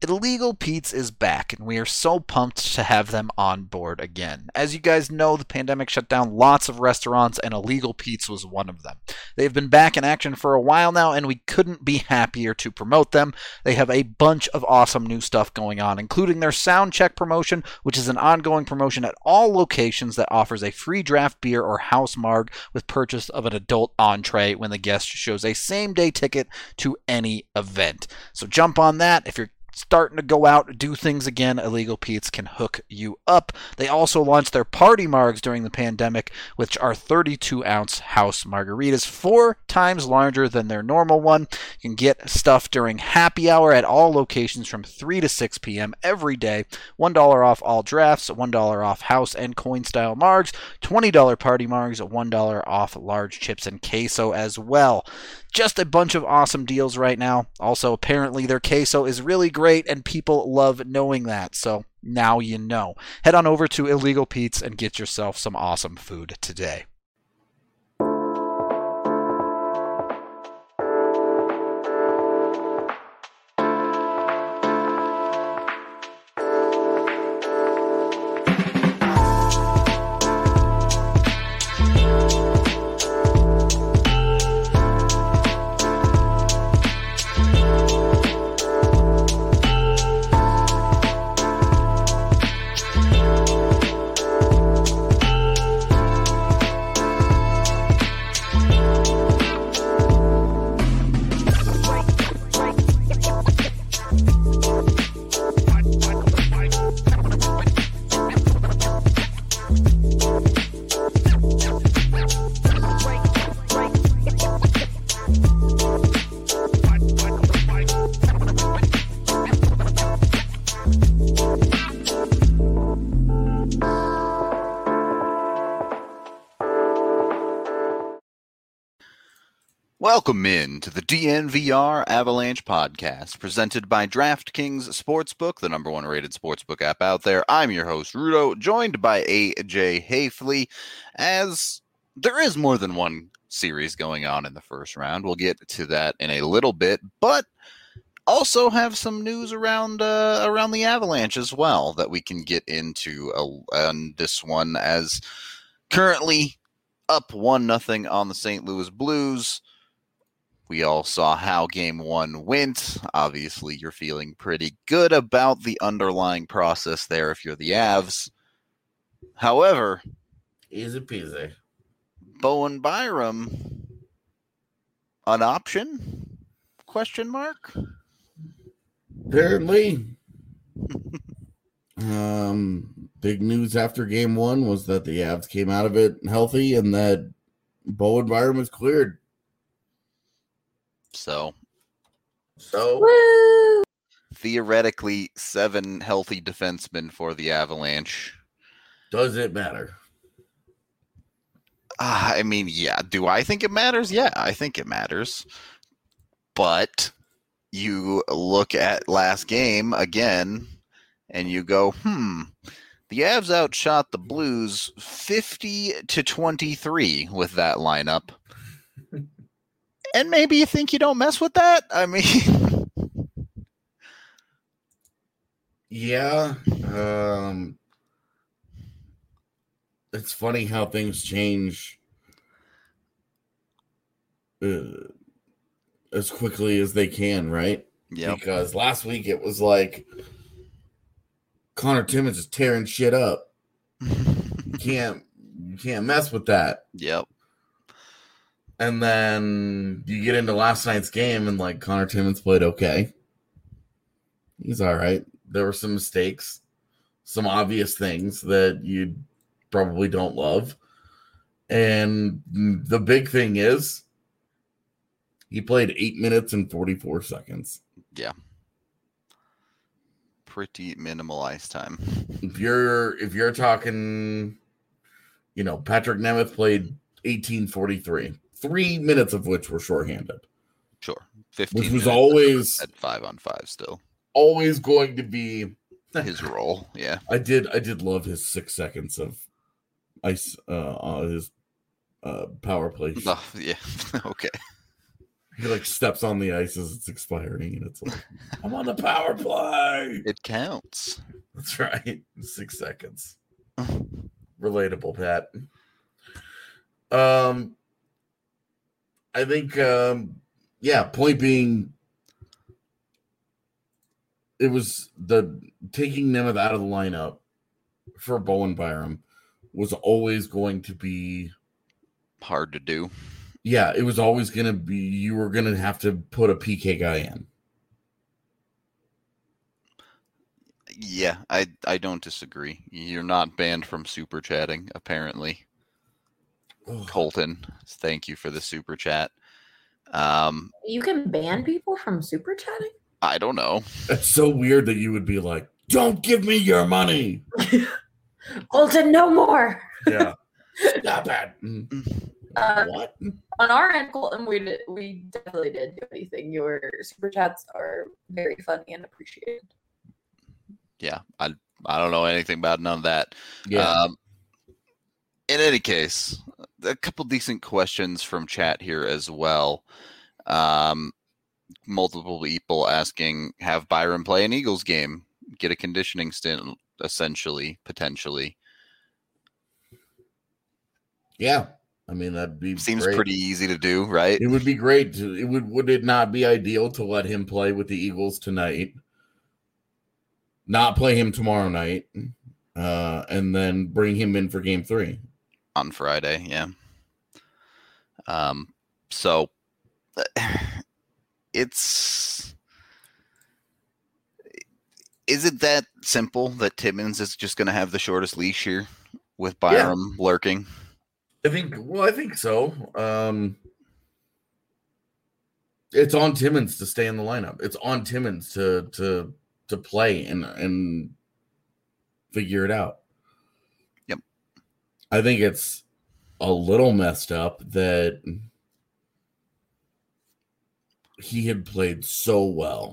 Illegal Pete's is back, and we are so pumped to have them on board again. As you guys know, the pandemic shut down lots of restaurants, and Illegal Pete's was one of them. They've been back in action for a while now, and we couldn't be happier to promote them. They have a bunch of awesome new stuff going on, including their Sound Check promotion, which is an ongoing promotion at all locations that offers a free draft beer or house marg with purchase of an adult entree when the guest shows a same-day ticket to any event. So jump on that. If you're starting to go out, do things again, Illegal Pete's can hook you up. They also launched their party margs during the pandemic, which are 32-ounce house margaritas, 4 times larger than their normal one. You can get stuff during happy hour at all locations from 3 to 6 p.m. every day. $1 off all drafts, $1 off house and coin-style margs, $20 party margs, $1 off large chips and queso as well. Just a bunch of awesome deals right now. Also, apparently their queso is really great, and people love knowing that. So now you know. Head on over to Illegal Pete's and get yourself some awesome food today. Welcome in to the DNVR Avalanche podcast, presented by DraftKings Sportsbook, the number 1 rated sportsbook app out there. I'm your host, Rudo, joined by AJ Hafley, as there is more than one series going on in the first round. We'll get to that in a little bit, but also have some news around the Avalanche as well that we can get into on this one, as currently up 1-0 on the St. Louis Blues. We all saw how Game 1 went. Obviously, you're feeling pretty good about the underlying process there if you're the Avs. However, easy peasy. Bowen Byram, an option? Question mark? Apparently. Big news after Game 1 was that the Avs came out of it healthy and that Bowen Byram was cleared. So Woo! Theoretically, 7 healthy defensemen for the Avalanche. Does it matter? I mean, yeah. Do I think it matters? Yeah, I think it matters. But you look at last game again, and you go, the Avs outshot the Blues 50-23 with that lineup. And maybe you think you don't mess with that? I mean... Yeah. It's funny how things change as quickly as they can, right? Yeah. Because last week it was like Connor Timmins is tearing shit up. You can't mess with that. Yep. And then you get into last night's game and like Connor Timmins played okay. He's all right. There were some mistakes, some obvious things that you probably don't love. And the big thing is he played 8 minutes and 44 seconds. Yeah. Pretty minimal ice time. If you're talking, Patrick Nemeth played 18:43. 3 minutes of which were shorthanded. Sure. 15 which was always at 5-on-5 still. Always going to be his role. Yeah. I did love his 6 seconds of ice on his power play. Oh, yeah. Okay. He like steps on the ice as it's expiring, and it's like, I'm on the power play. It counts. That's right. 6 seconds. Relatable, Pat. I think, point being, it was the taking Nemeth out of the lineup for Bowen Byram was always going to be hard to do. Yeah, it was always going to be, you were going to have to put a PK guy in. Yeah, I don't disagree. You're not banned from super chatting, apparently. Oh. Colton, thank you for the super chat. You can ban people from super chatting? I don't know. It's so weird that you would be like, don't give me your money. Colton, no more. Yeah. Stop it. What? On our end, Colton, we definitely did do anything. Your super chats are very funny and appreciated. Yeah, I don't know anything about none of that. Yeah. In any case, a couple decent questions from chat here as well. Multiple people asking, have Byram play an Eagles game, get a conditioning stint, essentially, potentially. Yeah. I mean, that'd be seems great. Pretty easy to do, right? It would be great. Would it not be ideal to let him play with the Eagles tonight? Not play him tomorrow night, and then bring him in for game 3 on Friday. Yeah. So is it that simple that Timmins is just going to have the shortest leash here with Byram lurking? I think so. It's on Timmins to stay in the lineup. It's on Timmins to play and figure it out. Yep. I think it's a little messed up that he had played so well,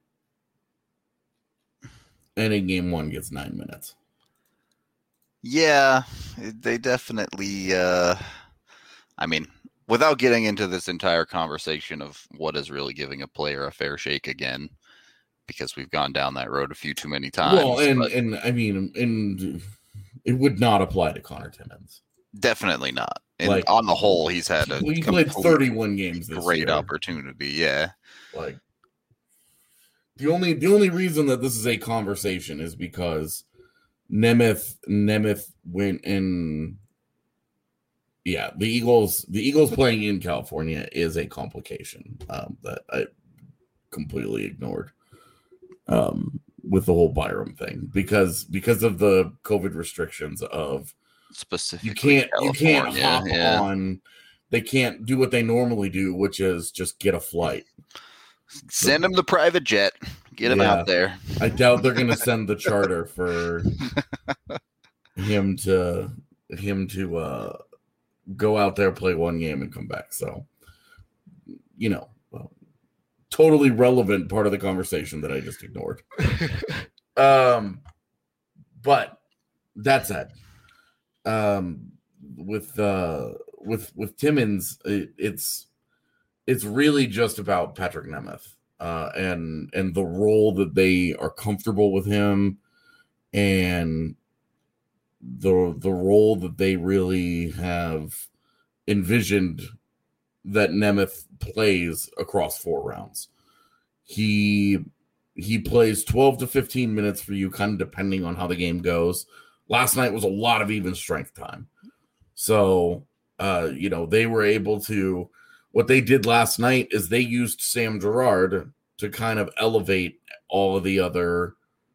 and in game 1 gets 9 minutes. Yeah, they definitely, I mean, without getting into this entire conversation of what is really giving a player a fair shake again, because we've gone down that road a few too many times. Well, and I mean, it would not apply to Connor Timmins. Definitely not. And on the whole, he played 31 games this great year. Opportunity, yeah. Like the only reason that this is a conversation is because Nemeth went in. Yeah, the Eagles playing in California is a complication that I completely ignored with the whole Byram thing because of the COVID restrictions of specifically you can't hop on. They can't do what they normally do, which is just get a flight. Send him the private jet. Get him out there. I doubt they're going to send the charter for him to go out there, play one game, and come back. So, totally relevant part of the conversation that I just ignored. But that said, with Timmins, it's really just about Patrick Nemeth and the role that they are comfortable with him, and the role that they really have envisioned that Nemeth plays across 4 rounds. He plays 12 to 15 minutes for you, kind of depending on how the game goes. Last night was a lot of even strength time. So, they were able to, what they did last night is they used Sam Girard to kind of elevate all of the other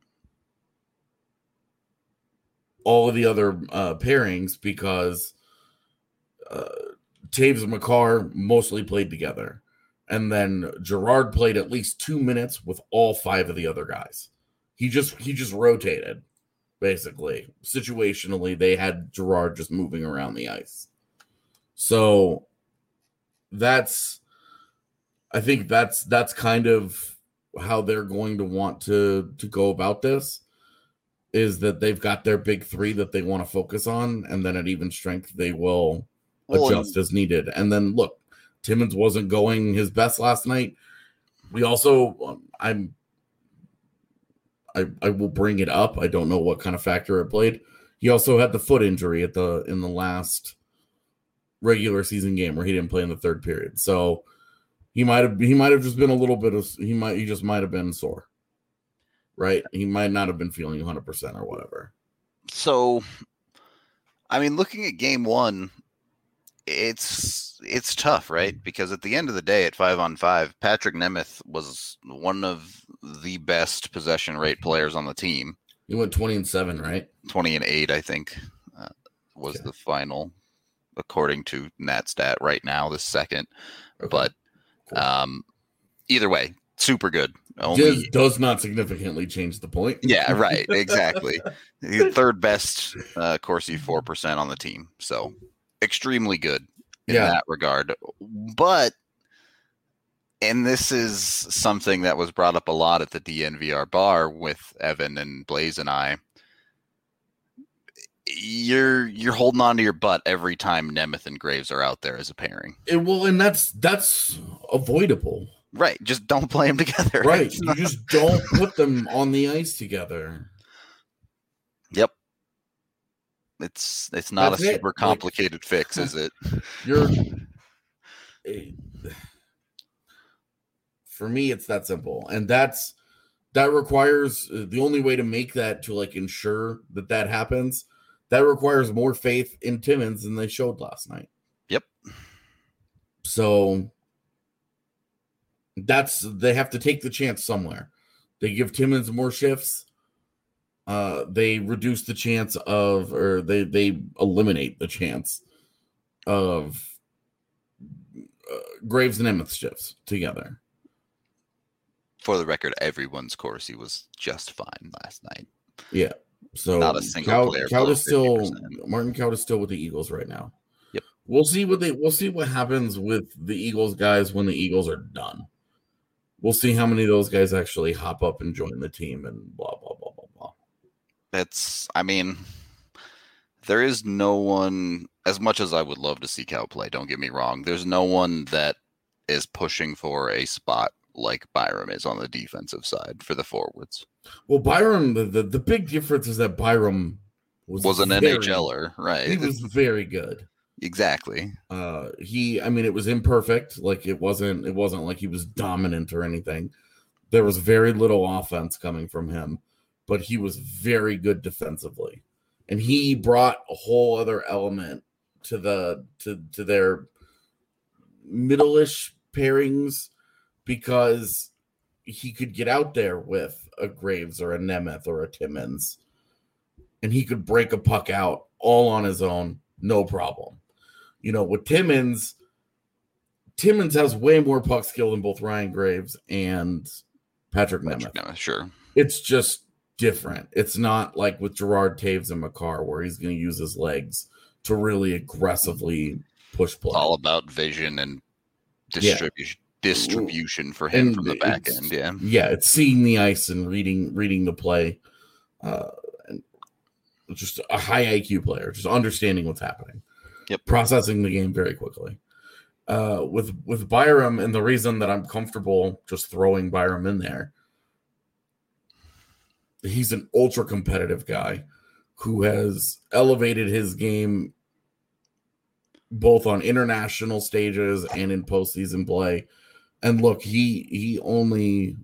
pairings because Taves and McCarr mostly played together. And then Girard played at least 2 minutes with all 5 of the other guys. He just rotated, basically. Situationally, they had Girard just moving around the ice. So I think that's kind of how they're going to want to go about this, is that they've got their big 3 that they want to focus on, and then at even strength they will adjust as needed. And then look, Timmins wasn't going his best last night. We also, I will bring it up. I don't know what kind of factor it played. He also had the foot injury in the last regular season game where he didn't play in the third period. So he might have just been a little bit of he just might have been sore. Right? He might not have been feeling 100% or whatever. So, I mean, looking at game one, it's tough, right? Because at the end of the day, at 5-on-5, Patrick Nemeth was one of the best possession rate players on the team. He went 20-7, right? 20-8, I think, was the final, according to NatStat right now, the second. Okay. But either way, super good. Does not significantly change the point. Yeah, right. Exactly. The third best Corsi 4% on the team. So extremely good in that regard. But, and this is something that was brought up a lot at the DNVR bar with Evan and Blaze and I. You're holding on to your butt every time Nemeth and Graves are out there as a pairing. And that's avoidable. Right. Just don't play them together. Right. You just don't put them on the ice together. Yep. It's not a super complicated fix, is it? For me, it's that simple. And that requires the only way to make that to ensure that happens. That requires more faith in Timmins than they showed last night. Yep. So they have to take the chance somewhere. They give Timmins more shifts. They reduce the chance of, or they eliminate the chance of Graves and Nemeth shifts together. For the record, everyone's Corsi was just fine last night. Yeah. So not a single player. Martin Kaut is still with the Eagles right now. Yep. We'll see what happens with the Eagles guys when the Eagles are done. We'll see how many of those guys actually hop up and join the team and blah, blah, blah, blah, blah. There is no one, as much as I would love to see Cal play, don't get me wrong, there's no one that is pushing for a spot like Byram is on the defensive side for the forwards. Well, Byram, the big difference is that Byram was an NHLer, right? He was very good. Exactly. It was imperfect. It wasn't like he was dominant or anything. There was very little offense coming from him, but he was very good defensively. And he brought a whole other element to their middle-ish pairings because he could get out there with a Graves or a Nemeth or a Timmins, and he could break a puck out all on his own, no problem. With Timmins has way more puck skill than both Ryan Graves and Patrick Nemeth. Sure. It's just different. It's not like with Gerard Taves and Makar where he's going to use his legs to really aggressively push play. All about vision and distribution for him from the back end. Yeah, it's seeing the ice and reading the play. And just a high IQ player, just understanding what's happening. Yep. Processing the game very quickly. With Byram, and the reason that I'm comfortable just throwing Byram in there, he's an ultra competitive guy who has elevated his game both on international stages and in postseason play. And look, he's only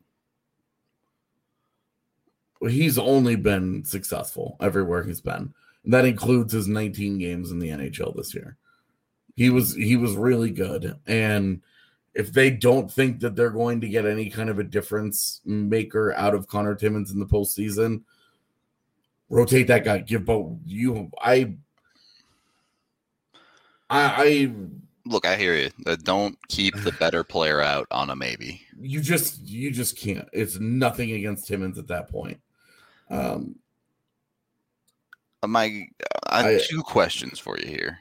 been successful everywhere he's been. And that includes his 19 games in the NHL this year. He was really good. And if they don't think that they're going to get any kind of a difference maker out of Connor Timmins in the postseason, rotate that guy. Give both you. I look. I hear you. Don't keep the better player out on a maybe. You just can't. It's nothing against Timmins at that point. I have two questions for you here.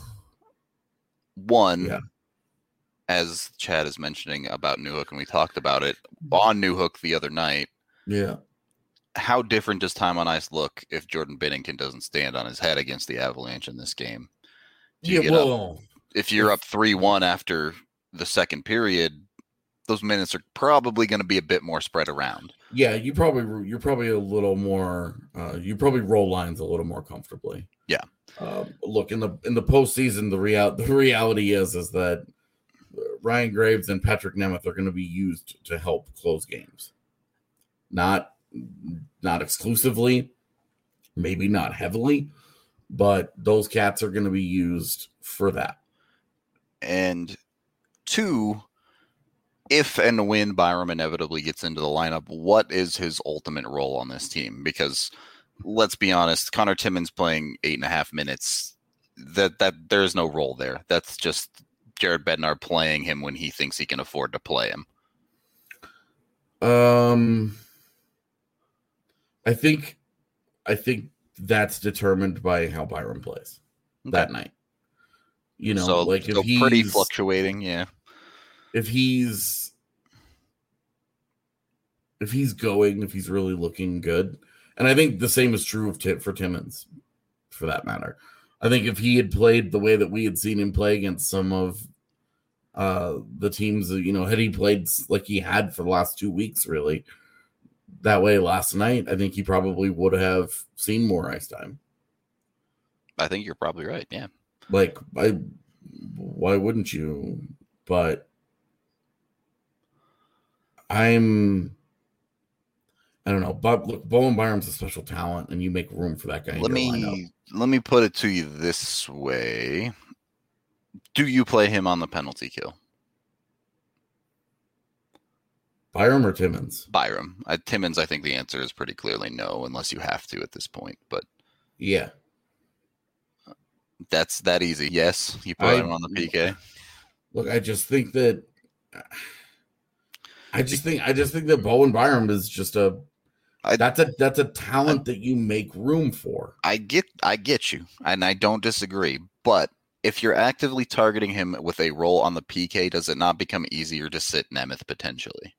One, as Chad is mentioning about Newhook, and we talked about it on Newhook the other night. Yeah. How different does time on ice look if Jordan Binnington doesn't stand on his head against the Avalanche in this game? if you're up 3-1 after the second period, those minutes are probably going to be a bit more spread around. Yeah, you're probably a little more. You probably roll lines a little more comfortably. Yeah. Look, in the postseason, the reality is that Ryan Graves and Patrick Nemeth are going to be used to help close games. Not exclusively, maybe not heavily, but those cats are going to be used for that. And 2, if and when Byram inevitably gets into the lineup, what is his ultimate role on this team? Because let's be honest, Connor Timmins playing 8.5 minutes, that there's no role there. That's just Jared Bednar playing him when he thinks he can afford to play him. I think that's determined by how Byram plays that night. You know, so, like if he's pretty fluctuating, yeah. If he's really looking good, and I think the same is true for Timmins, for that matter. I think if he had played the way that we had seen him play against some of the teams, you know, had he played like he had for the last 2 weeks, really, that way last night, I think he probably would have seen more ice time. I think you're probably right, yeah. Like, why wouldn't you? But I don't know. But look, Bowen Byram's a special talent, and you make room for that guy. Let me put it to you this way: do you play him on the penalty kill? Byram or Timmins? Byram. Timmins, I think the answer is pretty clearly no, unless you have to at this point. But yeah, that's that easy. Yes, you put him on the PK. Look, I just think that Bowen Byram is just that's a talent that you make room for. I get you, and I don't disagree. But if you're actively targeting him with a role on the PK, does it not become easier to sit Nemeth potentially?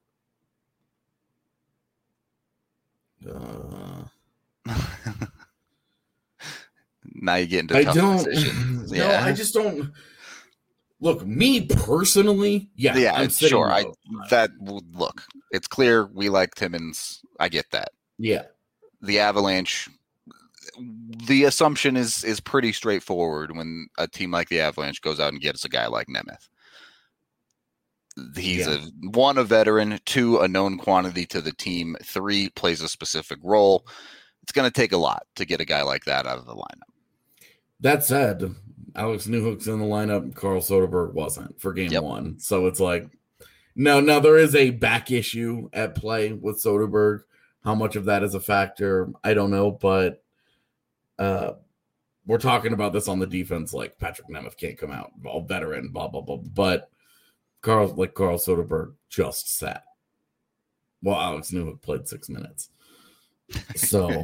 Now you get into tough decisions. No, I just don't. Look, me personally, I'm sure. Look, it's clear we like Timmins. I get that. Yeah, the Avalanche. The assumption is pretty straightforward when a team like the Avalanche goes out and gets a guy like Nemeth. He's one, a veteran, 2, a known quantity to the team, 3, plays a specific role. It's going to take a lot to get a guy like that out of the lineup. That said, Alex Newhook's in the lineup. Carl Soderberg wasn't for game 1. So it's like, no, there is a back issue at play with Soderberg. How much of that is a factor, I don't know. But we're talking about this on the defense, like Patrick Nemeth can't come out, all veteran, blah, blah, blah. But Carl Soderberg just sat. Well, Alex Newhook played 6 minutes. So,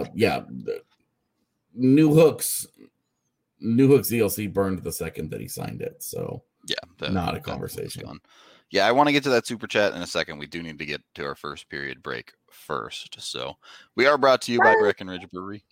Newhook's ELC burned the second that he signed it. So, not a conversation. Yeah, I want to get to that super chat in a second. We do need to get to our first period break first. So, we are brought to you by Breckenridge Brewery.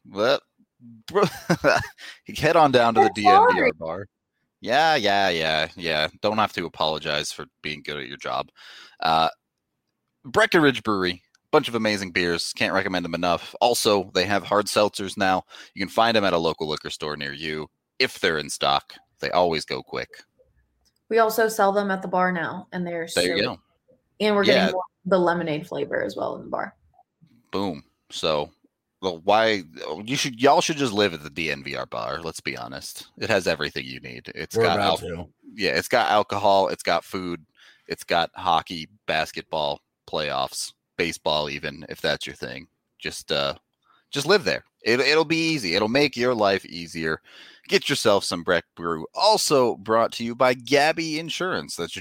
Head on down to the DNVR bar. Yeah. Don't have to apologize for being good at your job. Breckenridge Brewery. Bunch of amazing beers. Can't recommend them enough. Also, they have hard seltzers now. You can find them at a local liquor store near you if they're in stock. They always go quick. We also sell them at the bar now, and they're there you go. And we're getting the lemonade flavor as well in the bar. Boom. So, y'all should just live at the DNVR bar. Let's be honest. It has everything you need. It's got alcohol. It's got food. It's got hockey, basketball, playoffs. Baseball, even if that's your thing, just live there. It'll be easy. It'll make your life easier. Get yourself some Breck Brew. Also brought to you by Gabi Insurance. That's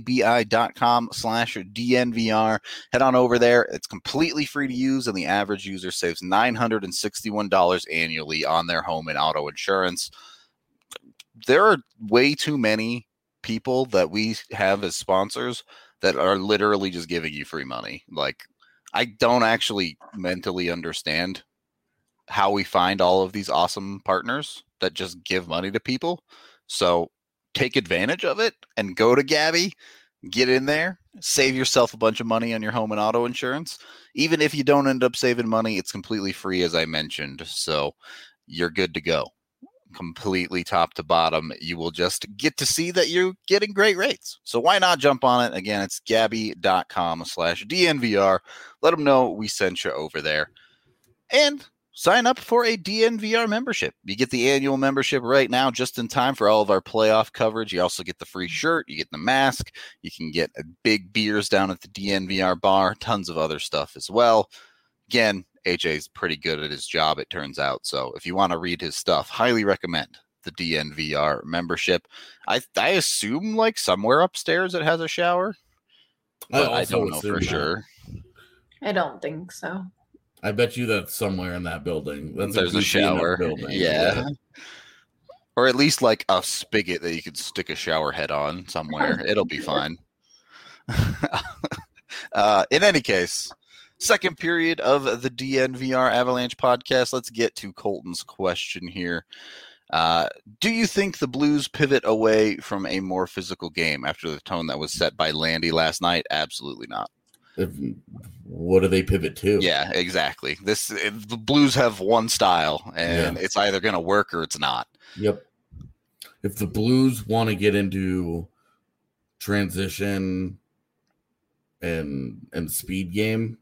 GABI.com/DNVR. Head on over there. It's completely free to use, and the average user saves $961 annually on their home and auto insurance. There are way too many people that we have as sponsors that are literally just giving you free money. Like, I don't actually mentally understand how we find all of these awesome partners that just give money to people. So take advantage of it and go to Gabby, get in there, save yourself a bunch of money on your home and auto insurance. Even if you don't end up saving money, it's completely free, as I mentioned. So you're good to go. Completely top to bottom. You will just get to see that you're getting great rates. So why not jump on it? Again, it's Gabby.com/DNVR. Let them know we sent you over there. And sign up for a DNVR membership. You get the annual membership right now just in time for all of our playoff coverage. You also get the free shirt. You get the mask. You can get big beers down at the DNVR bar. Tons of other stuff as well. Again, AJ's pretty good at his job, it turns out. So if you want to read his stuff, highly recommend the DNVR membership. I assume like somewhere upstairs it has a shower, but I don't know for sure. I don't think so. I bet you that's somewhere in that building. There's a shower. Yeah. Or at least like a spigot that you could stick a shower head on somewhere. It'll be fine. In any case, second period of the DNVR Avalanche podcast. Let's get to Colton's question here. Do you think the Blues pivot away from a more physical game after the tone that was set by Landy last night? Absolutely not. What do they pivot to? Yeah, exactly. The Blues have one style, and it's either going to work or it's not. Yep. If the Blues want to get into transition and speed game,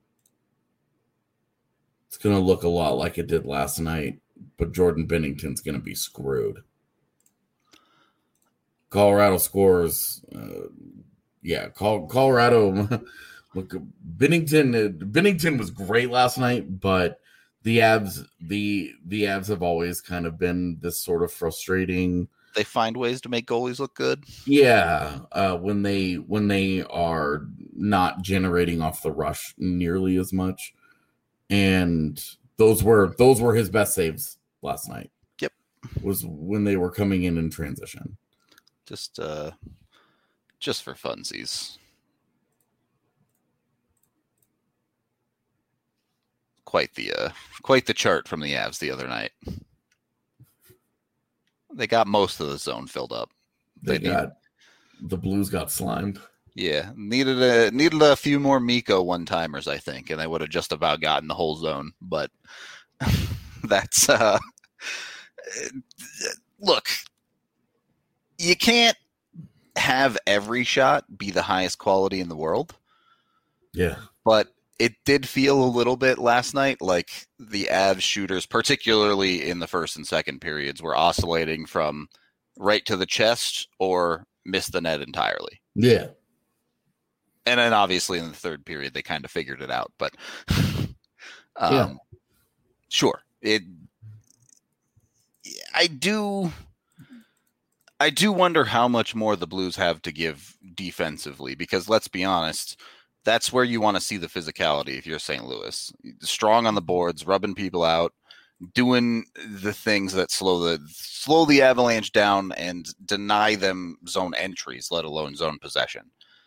it's going to look a lot like it did last night, but Jordan Binnington's going to be screwed. Colorado scores. Colorado. Look, Binnington was great last night, but the Avs have always kind of been this sort of frustrating. They find ways to make goalies look good. Yeah, when they are not generating off the rush nearly as much, and those were his best saves last night. Yep, was when they were coming in transition. Just for funsies. Quite the chart from the Avs the other night. They got most of the zone filled up. The Blues got slimed. Yeah, needed a few more Mikko one-timers, I think, and they would have just about gotten the whole zone. But that's look, you can't have every shot be the highest quality in the world. Yeah, but it did feel a little bit last night like the Avs shooters, particularly in the first and second periods, were oscillating from right to the chest or miss the net entirely. Yeah. And then obviously in the third period, they kind of figured it out. But sure. I do wonder how much more the Blues have to give defensively, because let's be honest, that's where you want to see the physicality if you're St. Louis. Strong on the boards, rubbing people out, doing the things that slow the Avalanche down and deny them zone entries, let alone zone possession.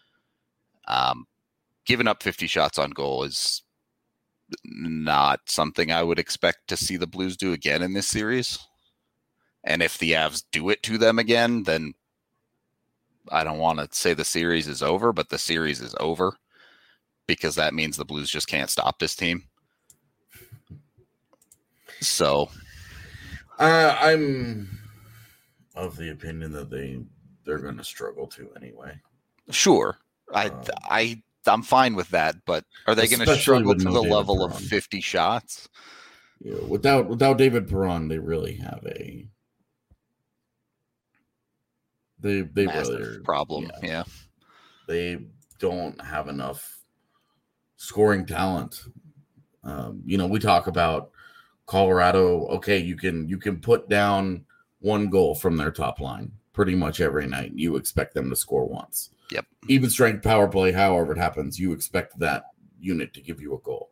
Giving up 50 shots on goal is not something I would expect to see the Blues do again in this series. And if the Avs do it to them again, then I don't want to say the series is over, but the series is over, because that means the Blues just can't stop this team. So I'm of the opinion that they're going to struggle to anyway. Sure. I'm fine with that, but are they going to struggle to the level of 50 shots? Yeah, without David Perron, they really have a they massive really problem. Yeah. They don't have enough scoring talent. We talk about Colorado. Okay, you can put down one goal from their top line pretty much every night. You expect them to score once. Yep. Even strength power play, however it happens, you expect that unit to give you a goal.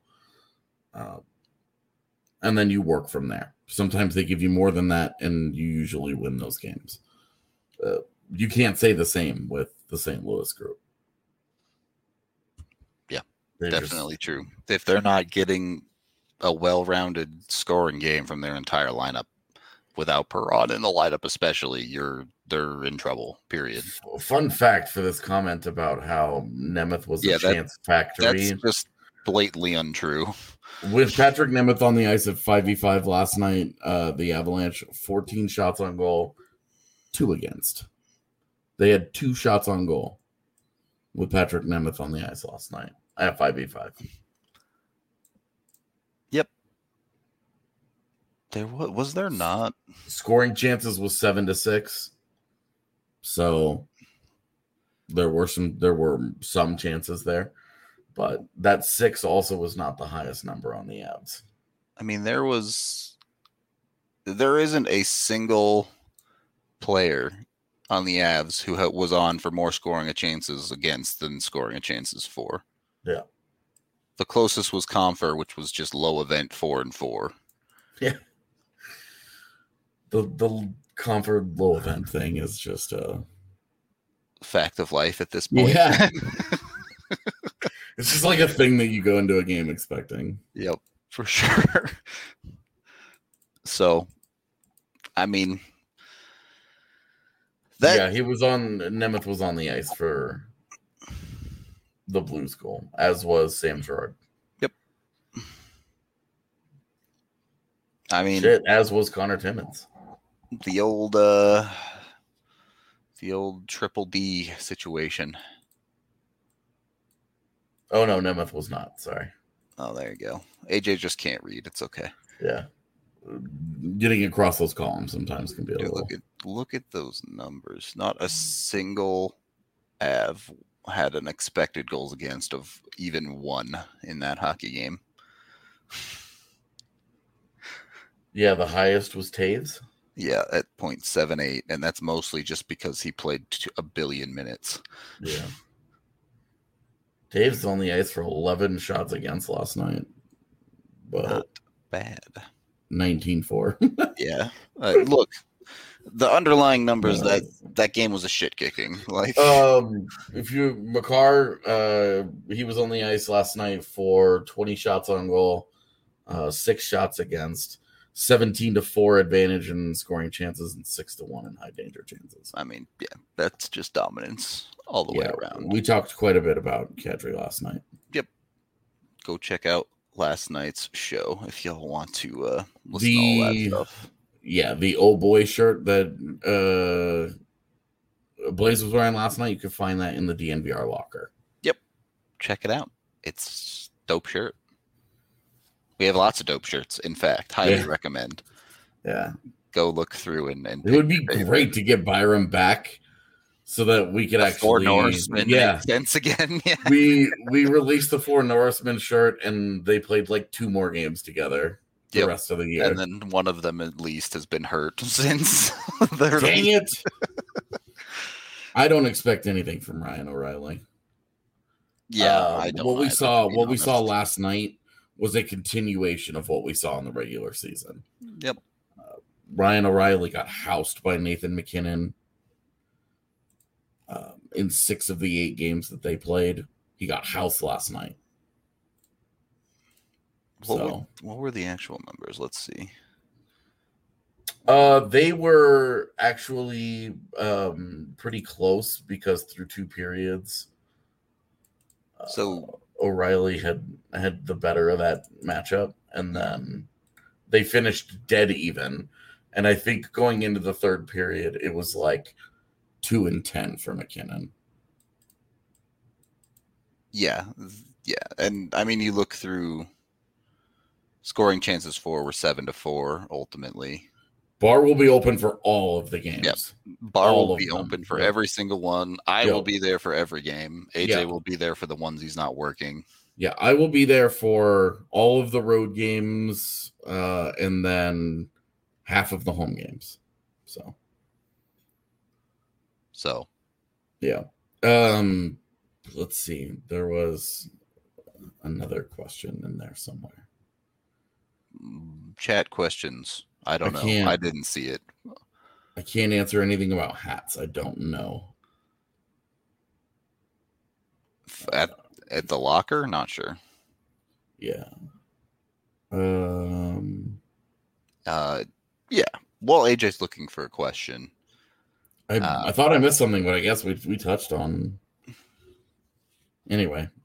And then you work from there. Sometimes they give you more than that, and you usually win those games. You can't say the same with the St. Louis group. Yeah, definitely true. If they're not getting a well-rounded scoring game from their entire lineup, without Perron in the lineup especially, they're in trouble. Period. Fun fact for this comment about how Nemeth was a chance factory. That's just blatantly untrue. With Patrick Nemeth on the ice at 5v5 last night, the Avalanche 14 shots on goal, 2 against. They had 2 shots on goal with Patrick Nemeth on the ice last night at 5v5. Yep. Was there not scoring chances was 7-6. So there were some chances there, but that 6 also was not the highest number on the Avs. I mean, there isn't a single player on the Avs who was on for more scoring of chances against than scoring of chances for. Yeah. The closest was Compher, which was just low event 4-4. Yeah. The Compher low event thing is just a fact of life at this point. Yeah. It's just like a thing that you go into a game expecting. Yep, for sure. So, I mean, Nemeth was on the ice for the Blues goal, as was Sam Girard. Yep. I mean, as was Connor Timmins. The old triple D situation. Oh no, Nemeth was not. Sorry. Oh, there you go. AJ just can't read. It's okay. Yeah. Getting across those columns sometimes can be a little. Look at those numbers. Not a single Av had an expected goals against of even 1 in that hockey game. Yeah, the highest was Taves. Yeah, at 0.78, and that's mostly just because he played a billion minutes. Yeah. Taves was on the ice for 11 shots against last night. But not bad. 19-4. Yeah. Look, the underlying numbers that game was a shit kicking. Like, Makar, he was on the ice last night for 20 shots on goal, 6 shots against, 17-4 advantage in scoring chances, and 6-1 in high danger chances. I mean, yeah, that's just dominance all the way around. We talked quite a bit about Kadri last night. Yep. Go check out last night's show if y'all want to listen to all that stuff. Yeah, the old boy shirt that Blaze was wearing last night, you can find that in the DNVR locker. Yep. Check it out. It's a dope shirt. We have lots of dope shirts, in fact. Highly recommend. Yeah. Go look through and it would be great to get Byram back so that we could actually Norsemen make sense again. Yeah. We released the 4 Norsemen shirt and they played like 2 more games together the rest of the year. And then one of them at least has been hurt since. Dang it. I don't expect anything from Ryan O'Reilly. Yeah, I don't. What we saw last night was a continuation of what we saw in the regular season. Yep. Ryan O'Reilly got housed by Nathan McKinnon in 6 of the 8 games that they played. He got housed last night. What were the actual numbers? Let's see. They were actually pretty close because through 2 periods, so O'Reilly had the better of that matchup, and then they finished dead even. And I think going into the 3rd period, it was like 2-10 for McKinnon. Yeah, and I mean, you look through scoring chances for were 7-4 ultimately. Bar will be open for all of the games. Yep. Bar will be open for every single one. I will be there for every game. AJ will be there for the ones he's not working. Yeah, I will be there for all of the road games and then half of the home games. So yeah. Let's see. There was another question in there somewhere. Chat questions. I don't know. I didn't see it. I can't answer anything about hats. I don't know. At the locker? Not sure. Yeah. Yeah. Well, AJ's looking for a question. I thought I missed something, but I guess we touched on. Anyway,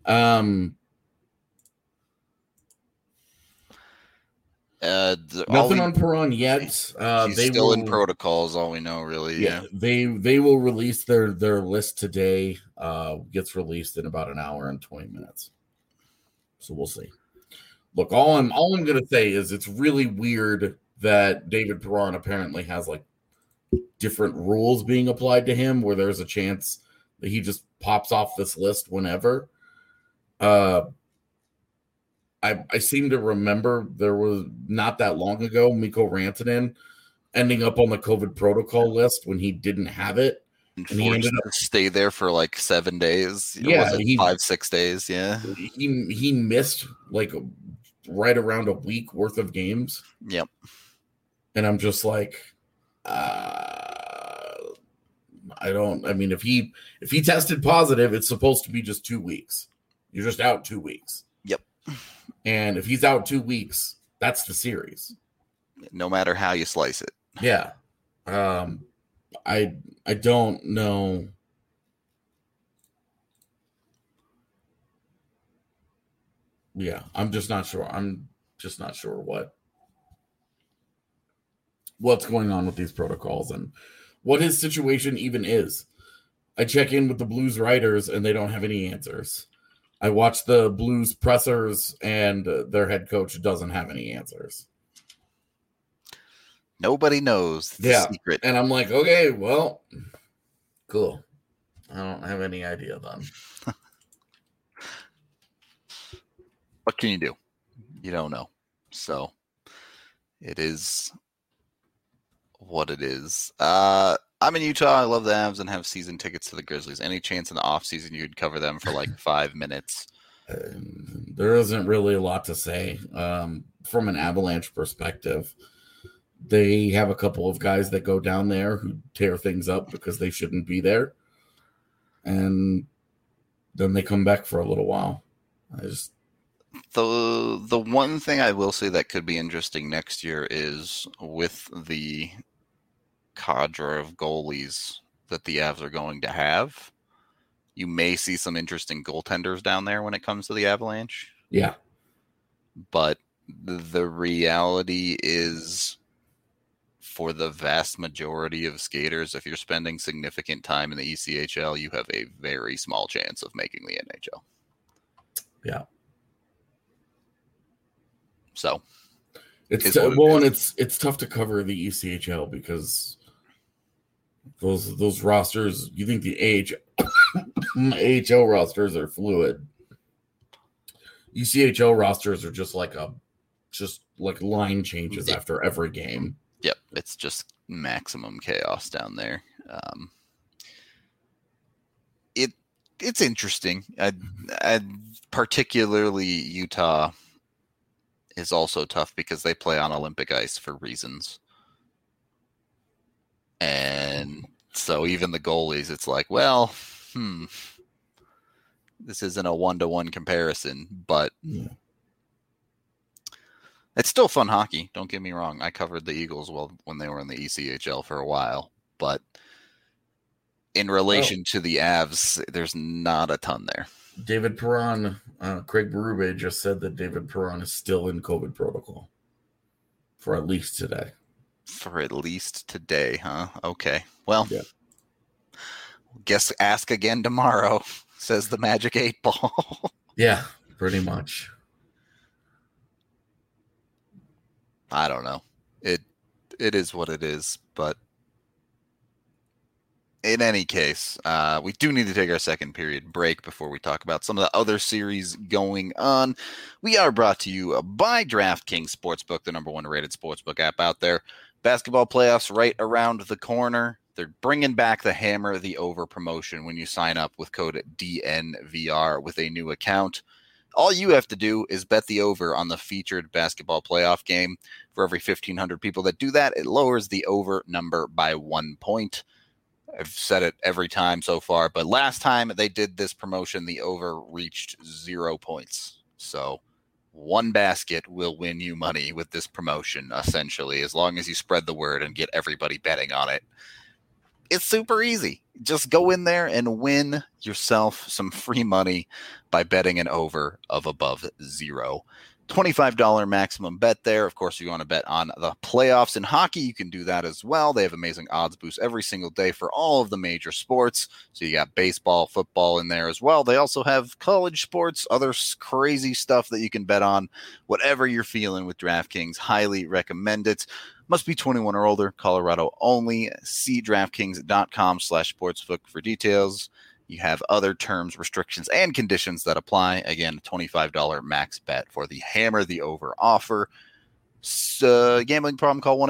nothing on Perron yet. He's They still in will- protocols, all we know, really. Yeah. They will release their list today. Gets released in about an hour and 20 minutes. So we'll see. Look, all I'm gonna say is it's really weird that David Perron apparently has like different rules being applied to him, where there's a chance that he just pops off this list whenever. I seem to remember there was not that long ago Mikko Rantanen ending up on the COVID protocol list when he didn't have it. And he ended up to stay there for like 7 days. Yeah, was it 5-6 days. Yeah. He missed like right around a week worth of games. Yep. And I'm just like, if he tested positive, it's supposed to be just 2 weeks. You're just out 2 weeks. Yep. And if he's out 2 weeks, that's the series. No matter how you slice it. Yeah. I don't know. Yeah, I'm just not sure. I'm just not sure what's going on with these protocols and what his situation even is. I check in with the Blues writers and they don't have any answers. I watch the Blues pressers and their head coach doesn't have any answers. Nobody knows the secret. And I'm like, okay, well, cool. I don't have any idea then. What can you do? You don't know. So it is what it is. I'm in Utah. I love the Avs and have season tickets to the Grizzlies. Any chance in the offseason you'd cover them for like 5 minutes? There isn't really a lot to say. From an Avalanche perspective, they have a couple of guys that go down there who tear things up because they shouldn't be there. And then they come back for a little while. The one thing I will say that could be interesting next year is with the cadre of goalies that the Avs are going to have, you may see some interesting goaltenders down there when it comes to the Avalanche. Yeah. But the reality is, for the vast majority of skaters, if you're spending significant time in the ECHL, you have a very small chance of making the NHL. Yeah. So it's tough to cover the ECHL because those rosters, you think the AHL rosters are fluid. ECHL rosters are just like line changes after every game. Yep, it's just maximum chaos down there. It's interesting. Particularly Utah is also tough because they play on Olympic ice for reasons. And so even the goalies, it's like, well, this isn't a 1-to-1 comparison, but it's still fun hockey. Don't get me wrong. I covered the Eagles when they were in the ECHL for a while, but in relation to the Avs, there's not a ton there. David Perron, Craig Berube just said that David Perron is still in COVID protocol for at least today. For at least today, huh? Okay. Well, guess ask again tomorrow, says the Magic 8 Ball. Yeah, pretty much. I don't know. It is what it is, but in any case, we do need to take our second period break before we talk about some of the other series going on. We are brought to you by DraftKings Sportsbook, the number 1 rated sportsbook app out there. Basketball playoffs right around the corner. They're bringing back the Hammer the Over promotion when you sign up with code DNVR with a new account. All you have to do is bet the over on the featured basketball playoff game. For every 1,500 people that do that, it lowers the over number by 1 point. I've said it every time so far, but last time they did this promotion, the over reached 0 points. So one basket will win you money with this promotion, essentially, as long as you spread the word and get everybody betting on it. It's super easy. Just go in there and win yourself some free money by betting an over of above 0. $25 maximum bet there. Of course, if you want to bet on the playoffs in hockey, you can do that as well. They have amazing odds boosts every single day for all of the major sports. So you got baseball, football in there as well. They also have college sports, other crazy stuff that you can bet on. Whatever you're feeling with DraftKings, highly recommend it. Must be 21 or older, Colorado only. See DraftKings.com/sportsbook for details. You have other terms, restrictions, and conditions that apply. Again, $25 max bet for the Hammer the Over offer. Gambling problem, call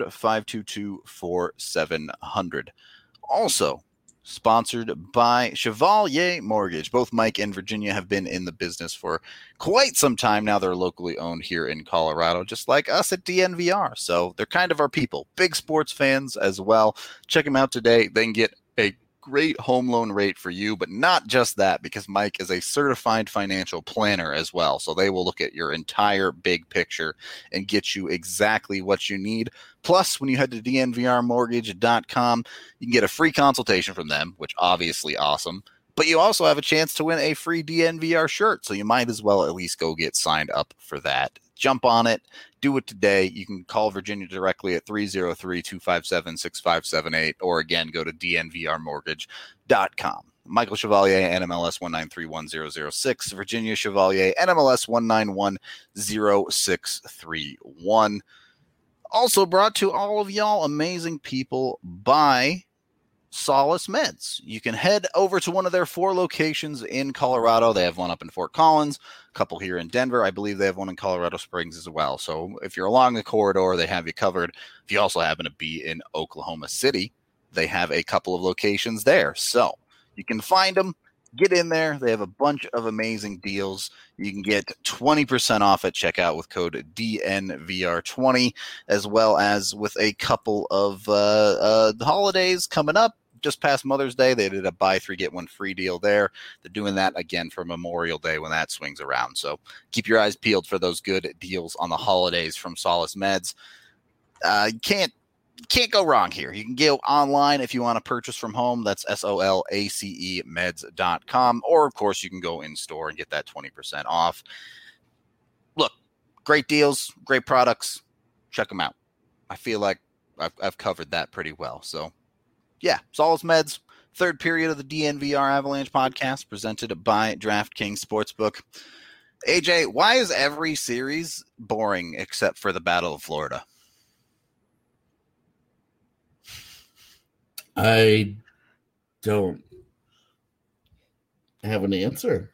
1-800-522-4700. Also, sponsored by Chevalier Mortgage. Both Mike and Virginia have been in the business for quite some time now. They're locally owned here in Colorado, just like us at DNVR. So they're kind of our people. Big sports fans as well. Check them out today. They can get a great home loan rate for you, but not just that, because Mike is a certified financial planner as well. So they will look at your entire big picture and get you exactly what you need. Plus, when you head to dnvrmortgage.com, you can get a free consultation from them, which obviously awesome. But you also have a chance to win a free DNVR shirt. So you might as well at least go get signed up for that. Jump on it. Do it today. You can call Virginia directly at 303-257-6578, or again, go to dnvrmortgage.com. Michael Chevalier, NMLS 1931006. Virginia Chevalier, NMLS 1910631. Also brought to all of y'all amazing people by Solace Meds. You can head over to one of their 4 locations in Colorado. They have one up in Fort Collins, a couple here in Denver. I believe they have one in Colorado Springs as well. So if you're along the corridor, they have you covered. If you also happen to be in Oklahoma City, they have a couple of locations there. So you can find them. Get in there. They have a bunch of amazing deals. You can get 20% off at checkout with code DNVR20, as well as with a couple of holidays coming up. Just past Mother's Day, they did a buy 3 get 1 free deal there. They're doing that again for Memorial Day when that swings around. So keep your eyes peeled for those good deals on the holidays from Solace Meds. You can't go wrong here. You can go online if you want to purchase from home. That's SOLACE meds.com. Or, of course, you can go in store and get that 20% off. Look, great deals, great products. Check them out. I feel like I've covered that pretty well. So, yeah, Solace Meds, third period of the DNVR Avalanche podcast presented by DraftKings Sportsbook. AJ, why is every series boring except for the Battle of Florida? I don't have an answer.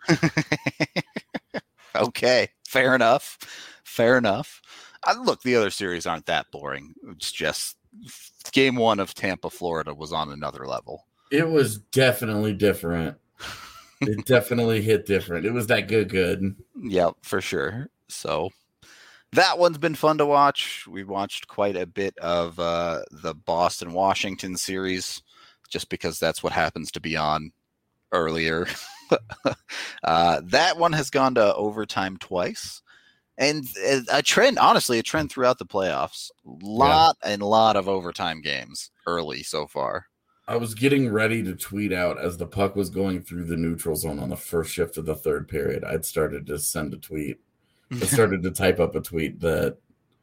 Okay, fair enough. Look, the other series aren't that boring. It's just game 1 of Tampa, Florida was on another level. It was definitely different. It definitely hit different. It was that good. Yep, for sure. So that one's been fun to watch. We watched quite a bit of the Boston-Washington series just because that's what happens to be on earlier. That one has gone to overtime twice. And a trend throughout the playoffs. Lot of overtime games early so far. I was getting ready to tweet out as the puck was going through the neutral zone on the first shift of the third period. I'd started to send a tweet. I started to type up a tweet that,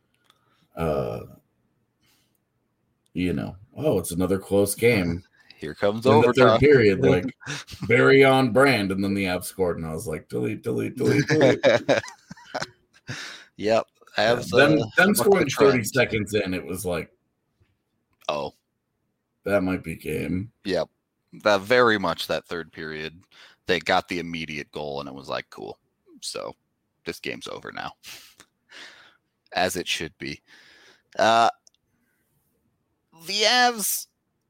it's another close game. Here comes in overtime. The third period, like very on brand, and then the Avs scored, and I was like, delete. Yep. Them scoring 30 seconds in, it was like, oh, that might be game. Yep. That very much that third period, they got the immediate goal, and it was like, cool. So this game's over now, as it should be. The Avs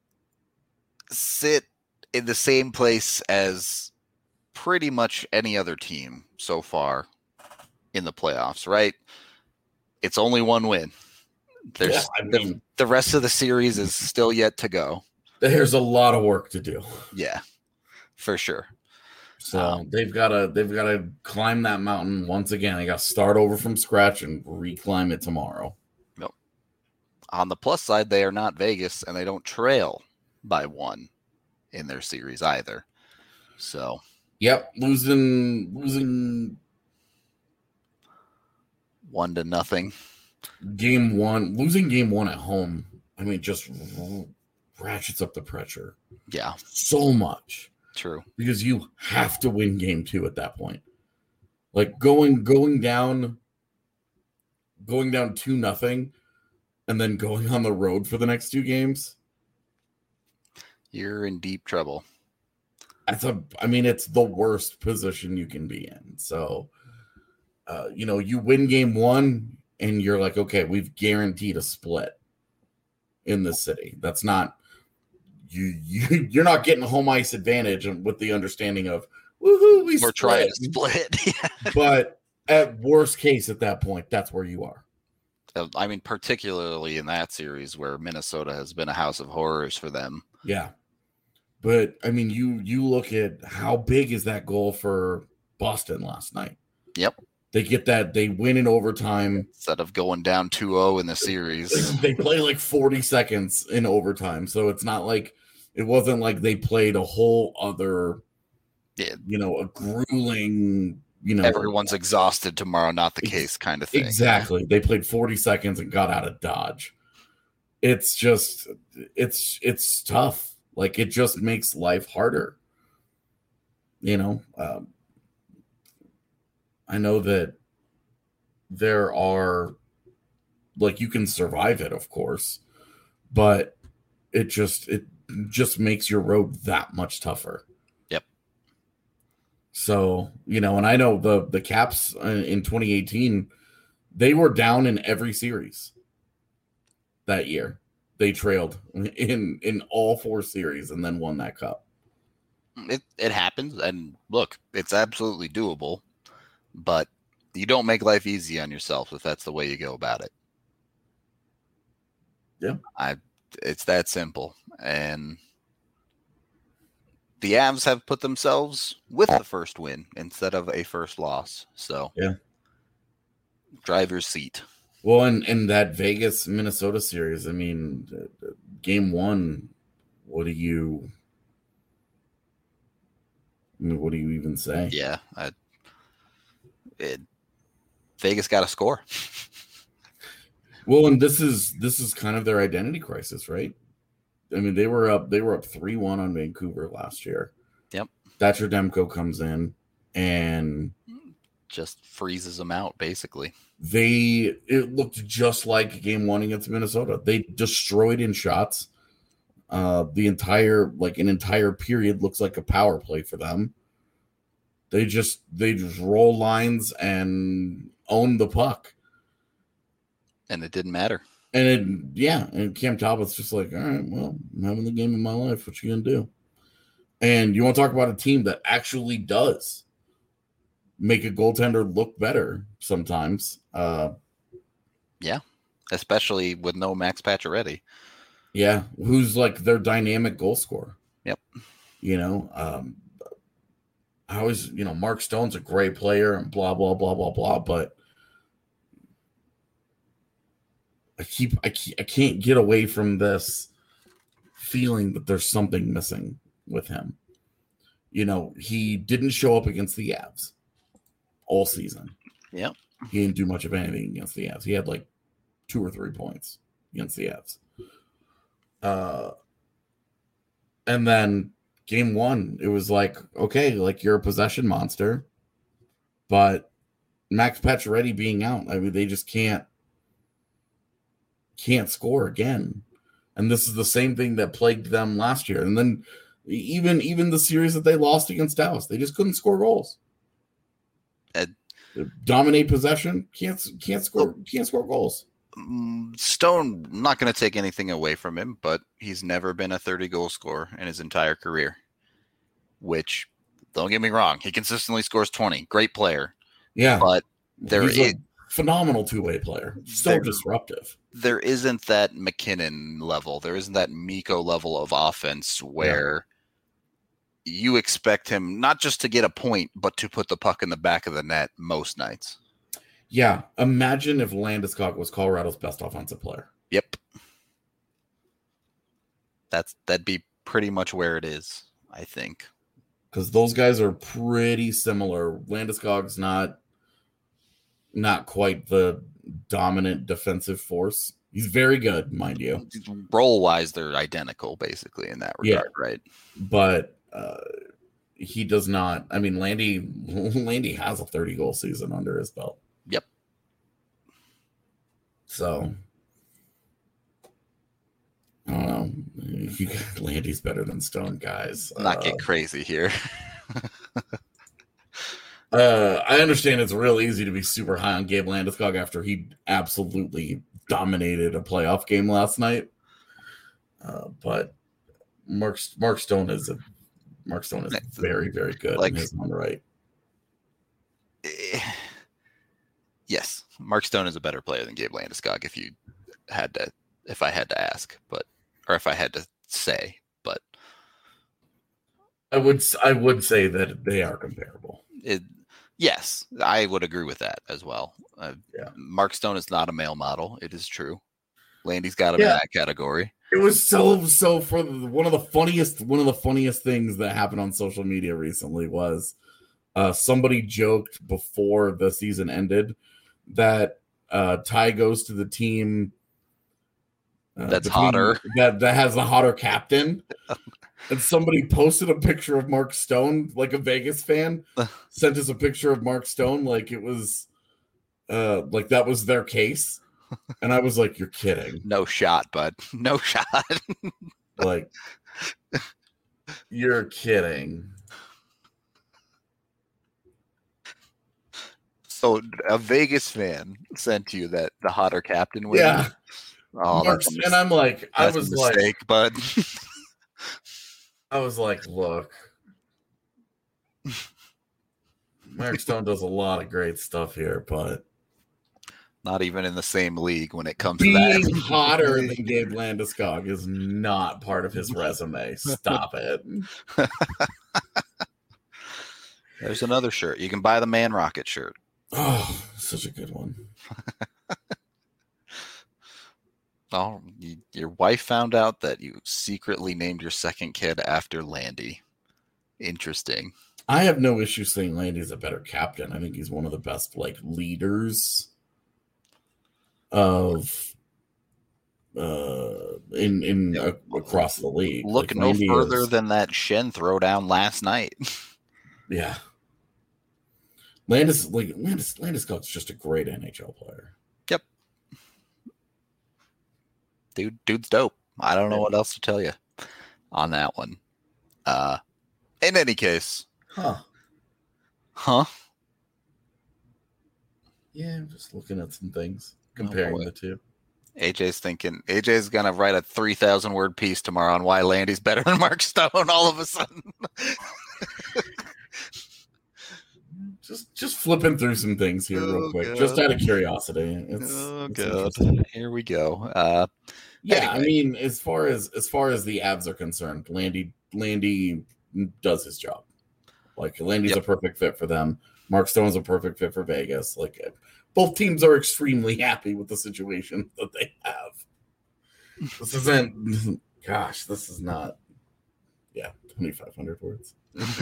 sit in the same place as pretty much any other team so far in the playoffs, right? It's only one win. The rest of the series is still yet to go. There's a lot of work to do. Yeah, for sure. So they've got to climb that mountain once again. They got to start over from scratch and reclimb it tomorrow. Nope. On the plus side, they are not Vegas and they don't trail by 1 in their series either. So, yep, losing 1-0. game 1, losing game 1 at home. I mean, just ratchets up the pressure. Yeah, so much. true. Because you have to win game 2 at that point. Like going down 2-0 and then going on the road for the next 2 games. You're in deep trouble. It's the worst position you can be in. So, you win game 1 and you're like, okay, we've guaranteed a split in this city. That's not you're not getting home ice advantage with the understanding of woohoo, We're trying to split. But at worst case, at that point, that's where you are. I mean, particularly in that series where Minnesota has been a house of horrors for them. Yeah. But I mean, you look at how big is that goal for Boston last night. Yep. They get that, they win in overtime. Instead of going down 2-0 in the series. They play like 40 seconds in overtime. So it's not like, it wasn't like they played a whole other, a grueling, everyone's exhausted tomorrow, not the case kind of thing. Exactly. They played 40 seconds and got out of Dodge. It's just, it's tough. Like, it just makes life harder. I know that there are, like, you can survive it, of course, but it just makes your road that much tougher. Yep. So, and I know the Caps in 2018, they were down in every series that year. They trailed in all 4 series and then won that cup. It happens, and look, it's absolutely doable, but you don't make life easy on yourself if that's the way you go about it. Yeah. It's that simple. And the Avs have put themselves with the first win instead of a first loss. So, yeah, driver's seat. Well, and that Vegas Minnesota series, I mean, game 1, what do you even say? Yeah, Vegas got a score. Well, and this is kind of their identity crisis, right? I mean, they were up 3-1 on Vancouver last year. Yep. Thatcher Demko comes in and just freezes them out, basically. It looked just like game 1 against Minnesota. They destroyed in shots. An entire period looks like a power play for them. They just roll lines and own the puck. And it didn't matter. And Cam Talbot's just like, all right, well, I'm having the game of my life. What you gonna do? And you want to talk about a team that actually does make a goaltender look better sometimes. Yeah, especially with no Max Pacioretty. Yeah, who's like their dynamic goal scorer. Yep. I always, Mark Stone's a great player and blah, blah, blah, blah, blah, but I can't get away from this feeling that there's something missing with him. He didn't show up against the Avs all season. Yep. He didn't do much of anything against the Avs. He had like 2 or 3 points against the Avs. And then game 1, it was like, okay, like you're a possession monster, but Max Pacioretty being out, I mean, they just can't score again. And this is the same thing that plagued them last year. And then even the series that they lost against Dallas, they just couldn't score goals. Dominate possession, can't score goals. Stone, not going to take anything away from him, but he's never been a 30-goal scorer in his entire career, which, don't get me wrong, he consistently scores 20. Great player. Yeah. But he's a phenomenal two-way player. So disruptive. There isn't that McKinnon level. There isn't that Mikko level of offense where you expect him not just to get a point, but to put the puck in the back of the net most nights. Yeah. Imagine if Landeskog was Colorado's best offensive player. Yep. That'd be pretty much where it is, I think. Because those guys are pretty similar. Landeskog's not quite the dominant defensive force. He's very good, mind you. Role-wise, they're identical, basically, in that regard, right? But he does not. I mean, Landy has a 30-goal season under his belt. Yep. So, I don't know. Landy's better than Stone, guys. Not get crazy here. I understand it's real easy to be super high on Gabe Landeskog after he absolutely dominated a playoff game last night. But Mark Stone is very, very good in his own right. Yes, Mark Stone is a better player than Gabe Landeskog if I had to ask, or if I had to say, but I would say that they are comparable. Yes, I would agree with that as well. Mark Stone is not a male model. It is true. Landy's got him in that category. It was so for one of the funniest things that happened on social media recently was somebody joked before the season ended that Ty goes to the team that's hotter, that has the hotter captain. And somebody posted a picture of Mark Stone, like a Vegas fan, sent us a picture of Mark Stone, like it was, like that was their case. And I was like, "You're kidding? No shot, bud. No shot. Like, you're kidding." So a Vegas fan sent you that the hotter captain was. Yeah. Oh, and I'm like, I was like, bud. I was like, look, Mark Stone does a lot of great stuff here, but not even in the same league when it comes to being that. hotter than Gabe Landeskog is not part of his resume. Stop it. There's another shirt. You can buy the Man Rocket shirt. Oh, such a good one. Oh, your wife found out that you secretly named your second kid after Landy. Interesting. I have no issue saying Landy's a better captain. I think he's one of the best leaders of across the league. Look no further than that Shen throwdown last night. Yeah. Landeskog's just a great NHL player. Yep. Dude's dope. I don't know what else to tell you on that one. In any case. Huh? Yeah, I'm just looking at some things, comparing the two. AJ's going to write a 3,000 word piece tomorrow on why Landy's better than Mark Stone all of a sudden. Just flipping through some things here real quick, just out of curiosity. God. Here we go. Anyway. I mean, as far as the Avs are concerned, Landy does his job. Like, Landy's a perfect fit for them. Mark Stone's a perfect fit for Vegas. Like, both teams are extremely happy with the situation that they have. This isn't. Gosh, this is not. Yeah, 2,500 words.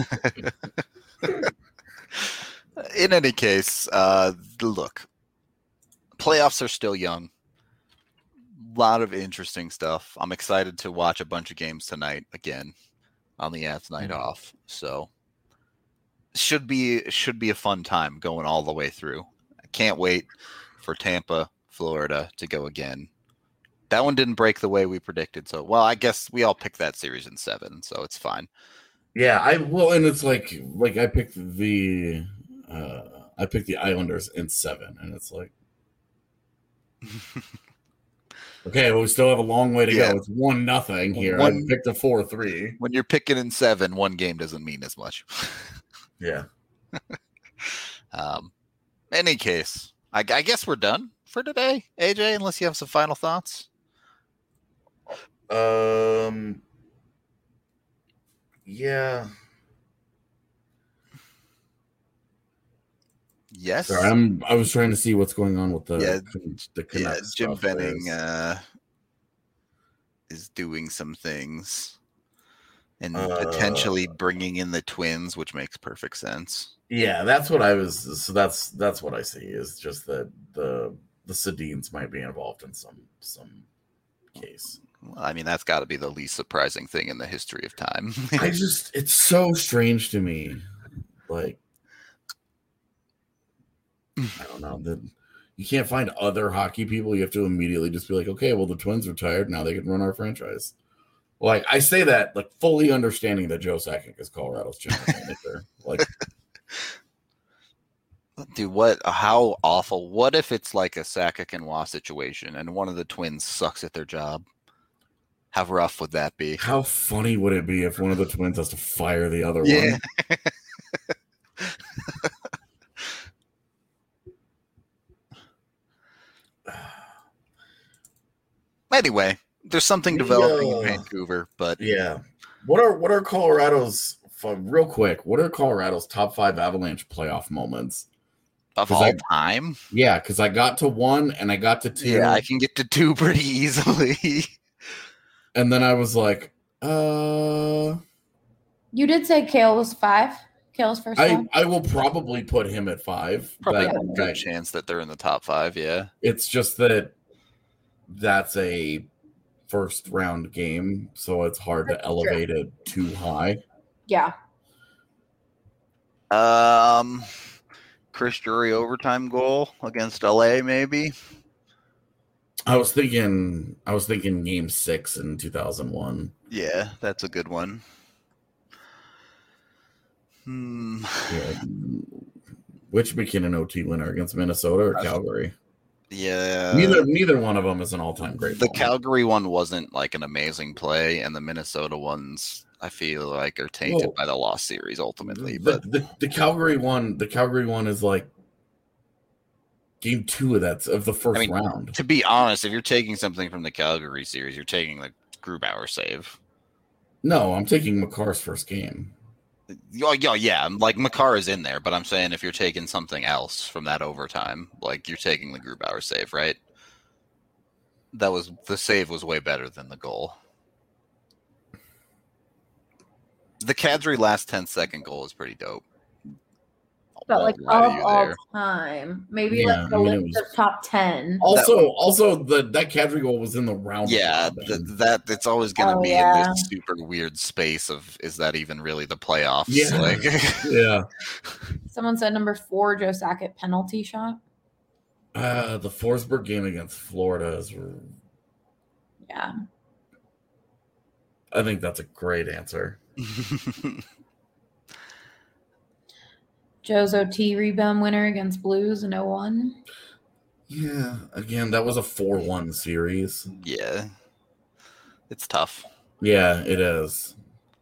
In any case, look, playoffs are still young. A lot of interesting stuff. I'm excited to watch a bunch of games tonight again on the Avs night off. So should be a fun time going all the way through. I can't wait for Tampa, Florida to go again. That one didn't break the way we predicted. So, well, I guess we all picked that series in 7, so it's fine. Yeah, and it's like I picked the Islanders in 7, and it's like, okay, well, we still have a long way to go. It's 1-0 here. I picked a 4-3. When you're picking in 7, one game doesn't mean as much. Yeah. Any case, I guess we're done for today, AJ, unless you have some final thoughts. Yeah. Yes. Sorry, I was trying to see what's going on with the Jim Benning is doing some things. and potentially bringing in the Twins, which makes perfect sense. Yeah, that's what I was. So that's what I see is just that the Sedins might be involved in some case. Well, I mean, that's got to be the least surprising thing in the history of time. It's so strange to me. Like, I don't know that you can't find other hockey people. You have to immediately just be like, okay, well, the Twins retired. Now they can run our franchise. Like, I say that like fully understanding that Joe Sakic is Colorado's general manager. Like, dude, how awful. What if it's like a Sakic and Waugh situation and one of the Twins sucks at their job? How rough would that be? how funny would it be if one of the Twins has to fire the other Yeah. one? Anyway, there's something developing in Vancouver, but Yeah. What are Colorado's real quick? What are Colorado's top 5 Avalanche playoff moments? of 'Cause all time, Yeah, because I got to 1 and I got to 2. yeah, I can get to 2 pretty easily. And then I was like, You did say Kale was 5. Kale's first one. I will probably put him at 5. Probably That a good guy- chance that they're in the top 5. Yeah, It's just that that's a first round game, so it's hard to That's elevate it too high. Yeah. Chris Drury overtime goal against LA, maybe. I was thinking game 6 in 2001. Yeah, that's a good one. Yeah. Which McKinnon OT winner against Minnesota or Calgary? Yeah, Neither one of them is an all-time great. the moment. Calgary one wasn't like an amazing play, and the Minnesota ones I feel like are tainted Well, by the lost series ultimately. the, But the Calgary one is like game 2 of the first round. to be honest, if you're taking something from the Calgary series, you're taking the Grubauer save. No, I'm taking McCarr's first game. Yeah, like Makar is in there, but I'm saying if you're taking something else from that overtime, like you're taking the Grubauer save, right? The save was way better than the goal. The Kadri last 10-second goal is pretty dope. But like Won't lie to of you all there. time, maybe Yeah, like the I mean, it list was- of top 10. Also, that Kadri goal was in the round. Yeah, robin. that it's always going to Oh, be yeah. in this super weird space of is that even really the playoffs? Yeah. Like, Yeah. Someone said number 4, Joe Sakic penalty shot. The Forsberg game against Florida is. Yeah. I think that's a great answer. Joe's OT rebound winner against Blues in 01. Yeah. Again, that was a 4-1 series. yeah, it's tough. Yeah, it is.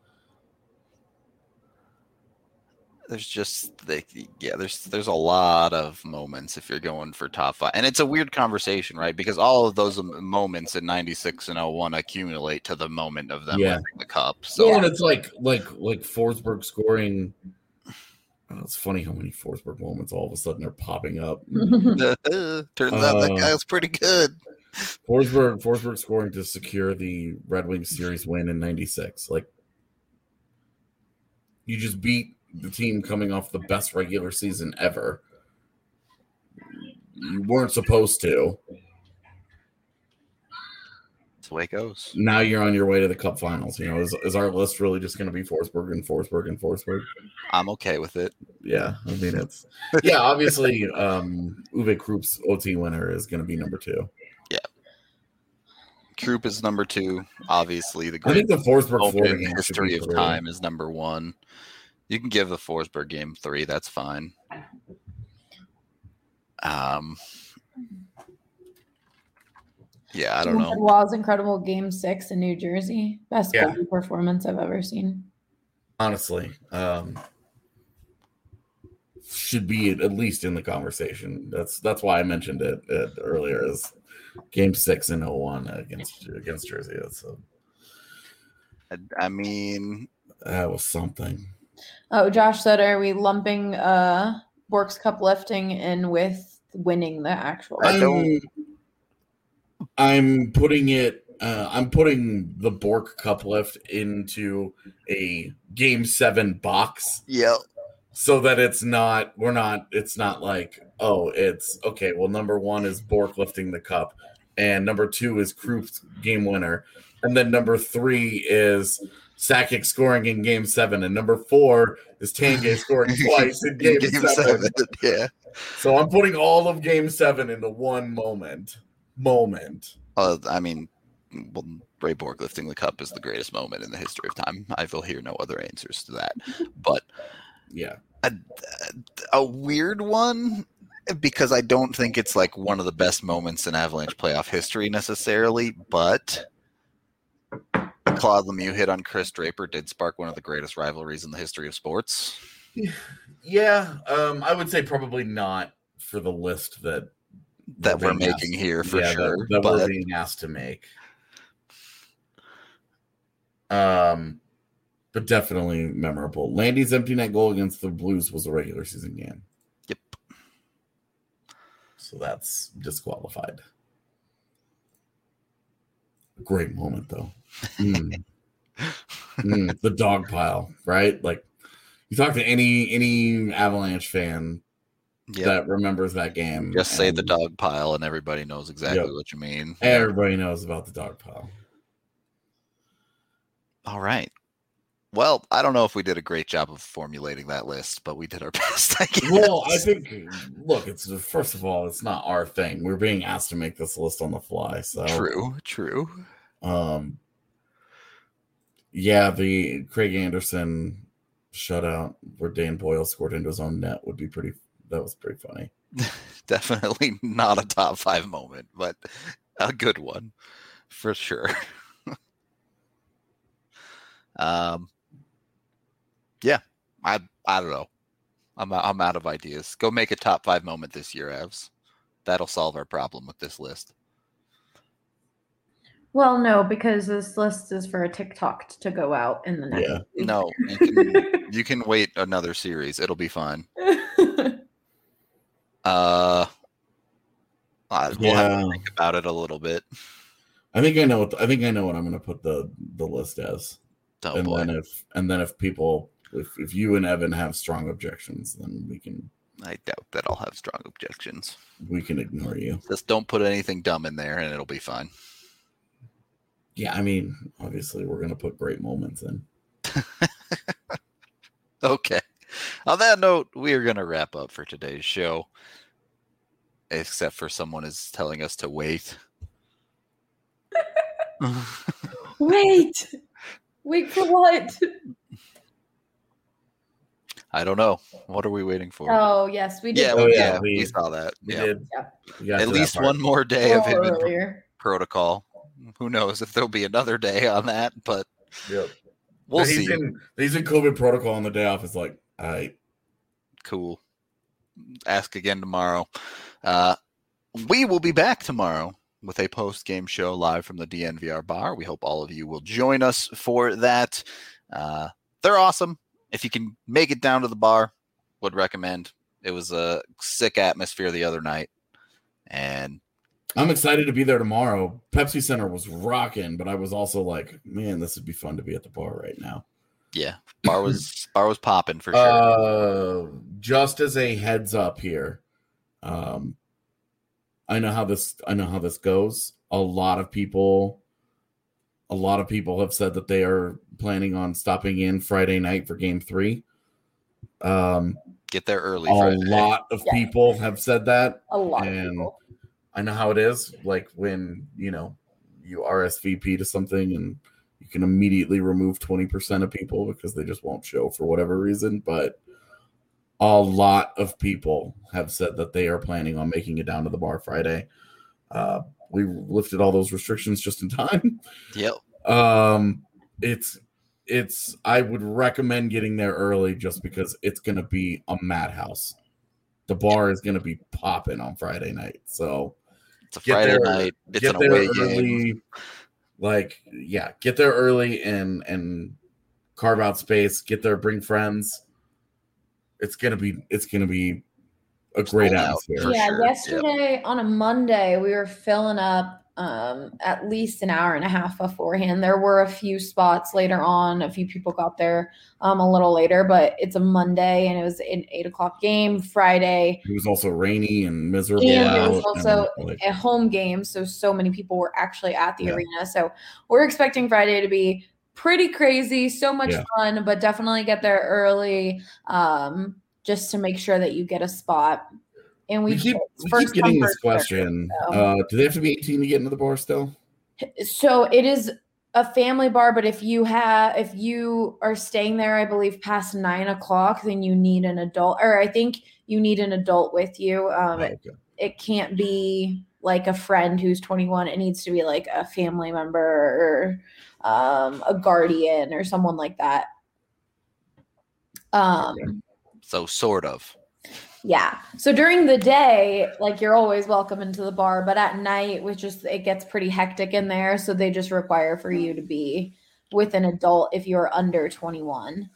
There's there's a lot of moments if you're going for top 5, and it's a weird conversation, right? Because all of those moments in '96 and '01 accumulate to the moment of them Yeah. winning the cup. So So and it's like Forsberg scoring. Oh, it's funny how many Forsberg moments all of a sudden are popping up. turns out that guy was pretty good. Forsberg scoring to secure the Red Wings series win in '96. Like, you just beat the team coming off the best regular season ever. You weren't supposed to. That's the way it goes. Now you're on your way to the Cup Finals. You know, is our list really just going to be Forsberg and Forsberg and Forsberg? I'm okay with it. Yeah, I mean obviously Uwe Krupp's OT winner is going to be number 2. Troop is number 2. Obviously, the I think great the Forsberg moment Florida in game should history be of 3. time is number 1. You can give the Forsberg game 3. That's fine. Yeah, I don't know. Wall's incredible game 6 in New Jersey. Best Yeah. goalie performance I've ever seen. Honestly, should be at least in the conversation. That's why I mentioned it earlier. Is game 6 in 01 against Jersey. I mean, That was something. Oh, Josh said, are we lumping Bork's Cup lifting in with winning the actual? I don't- I'm putting it I'm putting the Bork Cup lift into a Game 7 box. Yep. So that it's not like, oh, it's okay. Well, number 1 is Bork lifting the cup, and number 2 is Krupp's game winner, and then number 3 is Sakic scoring in Game 7, and number 4 is Tanguay scoring twice in Game 7. Yeah. So I'm putting all of Game 7 into one moment. I mean, well, Ray Borg lifting the cup is the greatest moment in the history of time. I will hear no other answers to that. But yeah, a weird one, because I don't think it's like one of the best moments in Avalanche playoff history necessarily, but Claude Lemieux hit on Chris Draper did spark one of the greatest rivalries in the history of sports. Yeah, I would say probably not for the list that we're making here for sure. That we're being asked to make. But definitely memorable. Landy's empty net goal against the Blues was a regular season game. Yep. So that's disqualified. Great moment though. The dog pile, right? Like you talk to any Avalanche fan that remembers that game. Just say the dog pile and everybody knows exactly what you mean. Everybody knows about the dog pile. All right. Well, I don't know if we did a great job of formulating that list, but we did our best, I guess. Well, I think, look, it's first of all, it's not our thing. We're being asked to make this list on the fly. So True. Yeah, the Craig Anderson shutout where Dan Boyle scored into his own net that was pretty funny. Definitely not a top 5 moment, but a good one for sure. Yeah, I don't know. I'm out of ideas. Go make a top 5 moment this year, Avs. That'll solve our problem with this list. Well, no, because this list is for a TikTok to go out in the next week. No, you can wait another series. It'll be fine. We'll have to think about it a little bit. I think I know what I'm going to put the list as. Oh, boy. Then if people, if you and Evan have strong objections, then we can. I doubt that I'll have strong objections. We can ignore you. Just don't put anything dumb in there, and it'll be fine. Yeah, I mean, obviously, we're going to put great moments in. Okay. On that note, we are going to wrap up for today's show. Except for someone is telling us to wait. Wait. Wait for what? I don't know. What are we waiting for? Oh, yes, we did. We saw that. We did. Yeah. At least one more day of him earlier. Protocol. Who knows if there'll be another day on that, but we'll see. He's in COVID protocol on the day off. It's like, all right. Cool. Ask again tomorrow. We will be back tomorrow with a post-game show live from the DNVR bar. We hope all of you will join us for that. They're awesome. If you can make it down to the bar, would recommend. It was a sick atmosphere the other night. And I'm excited to be there tomorrow. Pepsi Center was rocking, but I was also like, man, this would be fun to be at the bar right now. Yeah, bar was popping for sure. Just as a heads up here, I know how this goes. A lot of people have said that they are planning on stopping in Friday night for Game 3. Get there early. A lot of people have said that. A lot of people. I know how it is. Like when you RSVP to something and you can immediately remove 20% of people because they just won't show for whatever reason. But a lot of people have said that they are planning on making it down to the bar Friday. We lifted all those restrictions just in time. Yep. I would recommend getting there early just because it's going to be a madhouse. The bar is going to be popping on Friday night. So it's a Friday night. It's an away game. Get there early and carve out space. Get there, bring friends. It's gonna be a great Sold out. atmosphere. For Yeah, sure. yesterday on a Monday, we were filling up at least an hour and a half beforehand. There were a few spots later on. A few people got there a little later, but it's a Monday and it was an 8 o'clock game. Friday, It was also rainy and miserable. and Yeah. it was out, also and, like, a home game, so many people were actually at the Yeah. arena. So we're expecting Friday to be pretty crazy, so much Yeah. fun, but definitely get there early just to make sure that you get a spot. And we keep first getting come, this first serve. question. So- Do they have to be 18 to get into the bar still? So it is a family bar, but if you are staying there, I believe past 9 o'clock, then you need an adult, or I think you need an adult with you. Okay. It can't be like a friend who's 21. It needs to be like a family member or a guardian or someone like that. So sort of. Yeah. So during the day, like you're always welcome into the bar, but at night, it gets pretty hectic in there. So they just require for you to be with an adult if you're under 21,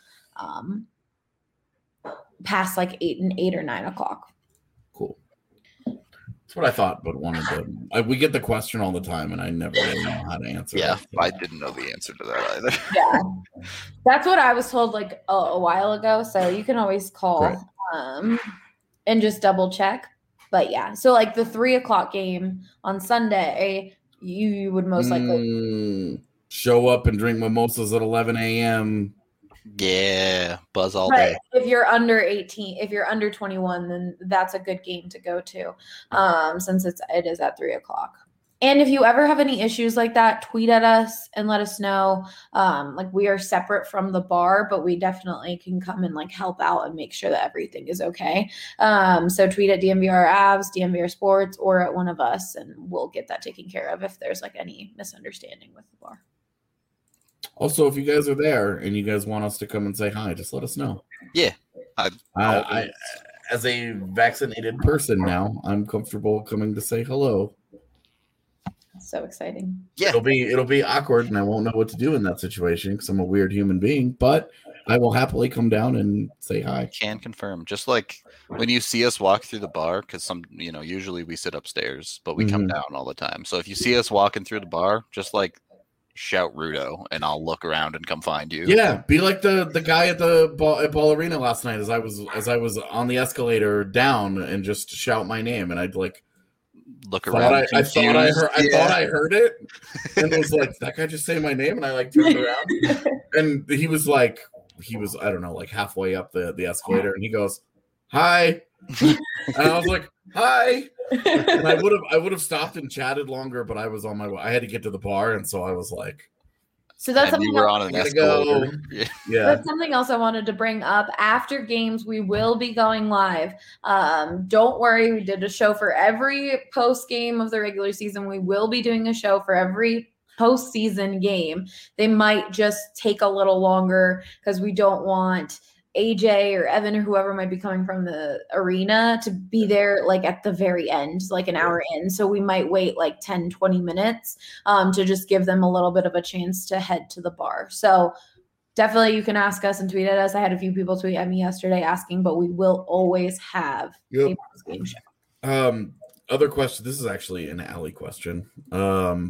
past like 8 or 9 o'clock. Cool. That's what I thought, but wanted to. We get the question all the time, and I never really know how to answer. Yeah, it, so. I didn't know the answer to that either. Yeah. That's what I was told like a while ago. So you can always call and just double check. But yeah, so like the 3 o'clock game on Sunday, you would most likely show up and drink mimosas at 11 a.m. Yeah, buzz all but day. if you're under 18, if you're under 21, then that's a good game to go to, since it is at 3 o'clock. And if you ever have any issues like that, tweet at us and let us know. Like we are separate from the bar, but we definitely can come and like help out and make sure that everything is okay. So tweet at DMVR Avs, DMVR Sports, or at one of us, and we'll get that taken care of if there's like any misunderstanding with the bar. Also, if you guys are there and you guys want us to come and say hi, just let us know. Yeah. I as a vaccinated person now, I'm comfortable coming to say hello. So exciting. Yeah. It'll be awkward, and I won't know what to do in that situation because I'm a weird human being. But I will happily come down and say hi. Can confirm. Just like when you see us walk through the bar, because usually we sit upstairs, but we come down all the time. So if you see us walking through the bar, just like shout Rudo, and I'll look around and come find you. Yeah, be like the guy at the ball arena last night as I was on the escalator down, and just shout my name, and I'd like. Look around. I thought I heard it, and it was like that guy just saying my name, and I like turned around, and he was I don't know, like halfway up the escalator, and he goes, "Hi," and I was like, "Hi," and I would have stopped and chatted longer, but I was on my way. I had to get to the bar, and so I was like. So that's and something you were on an escalator. Yeah. That's something else I wanted to bring up. After games, we will be going live. Don't worry, we did a show for every post game of the regular season. We will be doing a show for every postseason game. They might just take a little longer because we don't want AJ or Evan or whoever might be coming from the arena to be there like at the very end, like an hour in. So we might wait like 10, 20 minutes to just give them a little bit of a chance to head to the bar. So definitely you can ask us and tweet at us. I had a few people tweet at me yesterday asking, but we will always have a post-game show. Other question. This is actually an Allie question. Are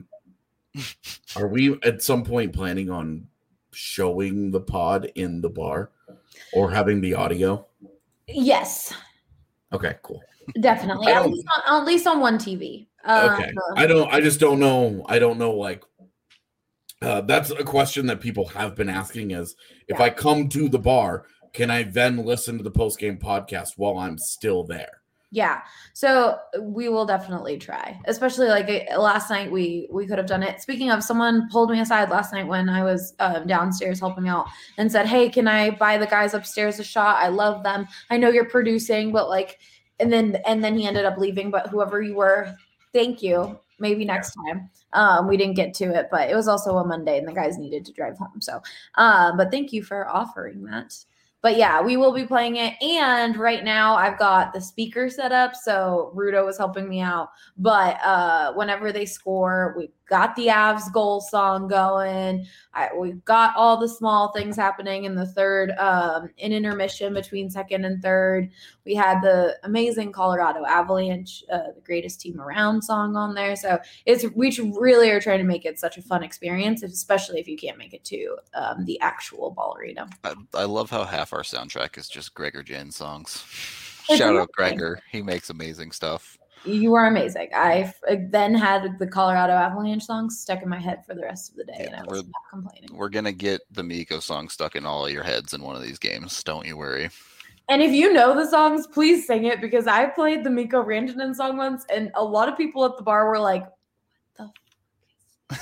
we at some point planning on showing the pod in the bar? Or having the audio? Yes. Okay, cool. Definitely. At least on one TV. Okay. I just don't know. I don't know, like, that's a question that people have been asking is, if I come to the bar, can I then listen to the post-game podcast while I'm still there? Yeah. So we will definitely try, especially like last night we could have done it. Speaking of, someone pulled me aside last night when I was downstairs helping out and said, "Hey, can I buy the guys upstairs a shot? I love them. I know you're producing, but like," and then he ended up leaving, but whoever you were, thank you. Maybe next time. We didn't get to it, but it was also a Monday and the guys needed to drive home. So, but thank you for offering that. But yeah, we will be playing it. And right now I've got the speaker set up. So Rudo was helping me out. But whenever they score, we've got the Avs goal song going. We've got all the small things happening in the third, in intermission between second and third. We had the amazing Colorado Avalanche, the greatest team around song on there. So we really are trying to make it such a fun experience, especially if you can't make it to the actual Ball Arena. I love how half our soundtrack is just Gregor Jan songs. It's Shout out amazing. Gregor. He makes amazing stuff. You are amazing. I then had the Colorado Avalanche songs stuck in my head for the rest of the day, and I was not complaining. We're going to get the Miko song stuck in all of your heads in one of these games. Don't you worry. And if you know the songs, please sing it, because I played the Miko Rantanen song once, and a lot of people at the bar were like, what the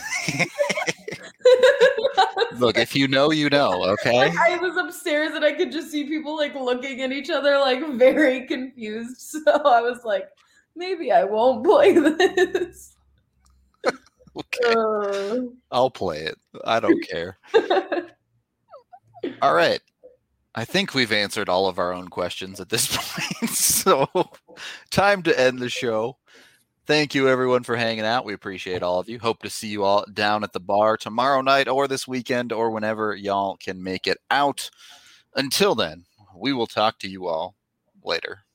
Look, if you know, you know, okay? Like, I was upstairs and I could just see people like looking at each other like very confused. So I was like, maybe I won't play this. Okay. I'll play it. I don't care. All right. I think we've answered all of our own questions at this point. So time to end the show. Thank you, everyone, for hanging out. We appreciate all of you. Hope to see you all down at the bar tomorrow night or this weekend or whenever y'all can make it out. Until then, we will talk to you all later.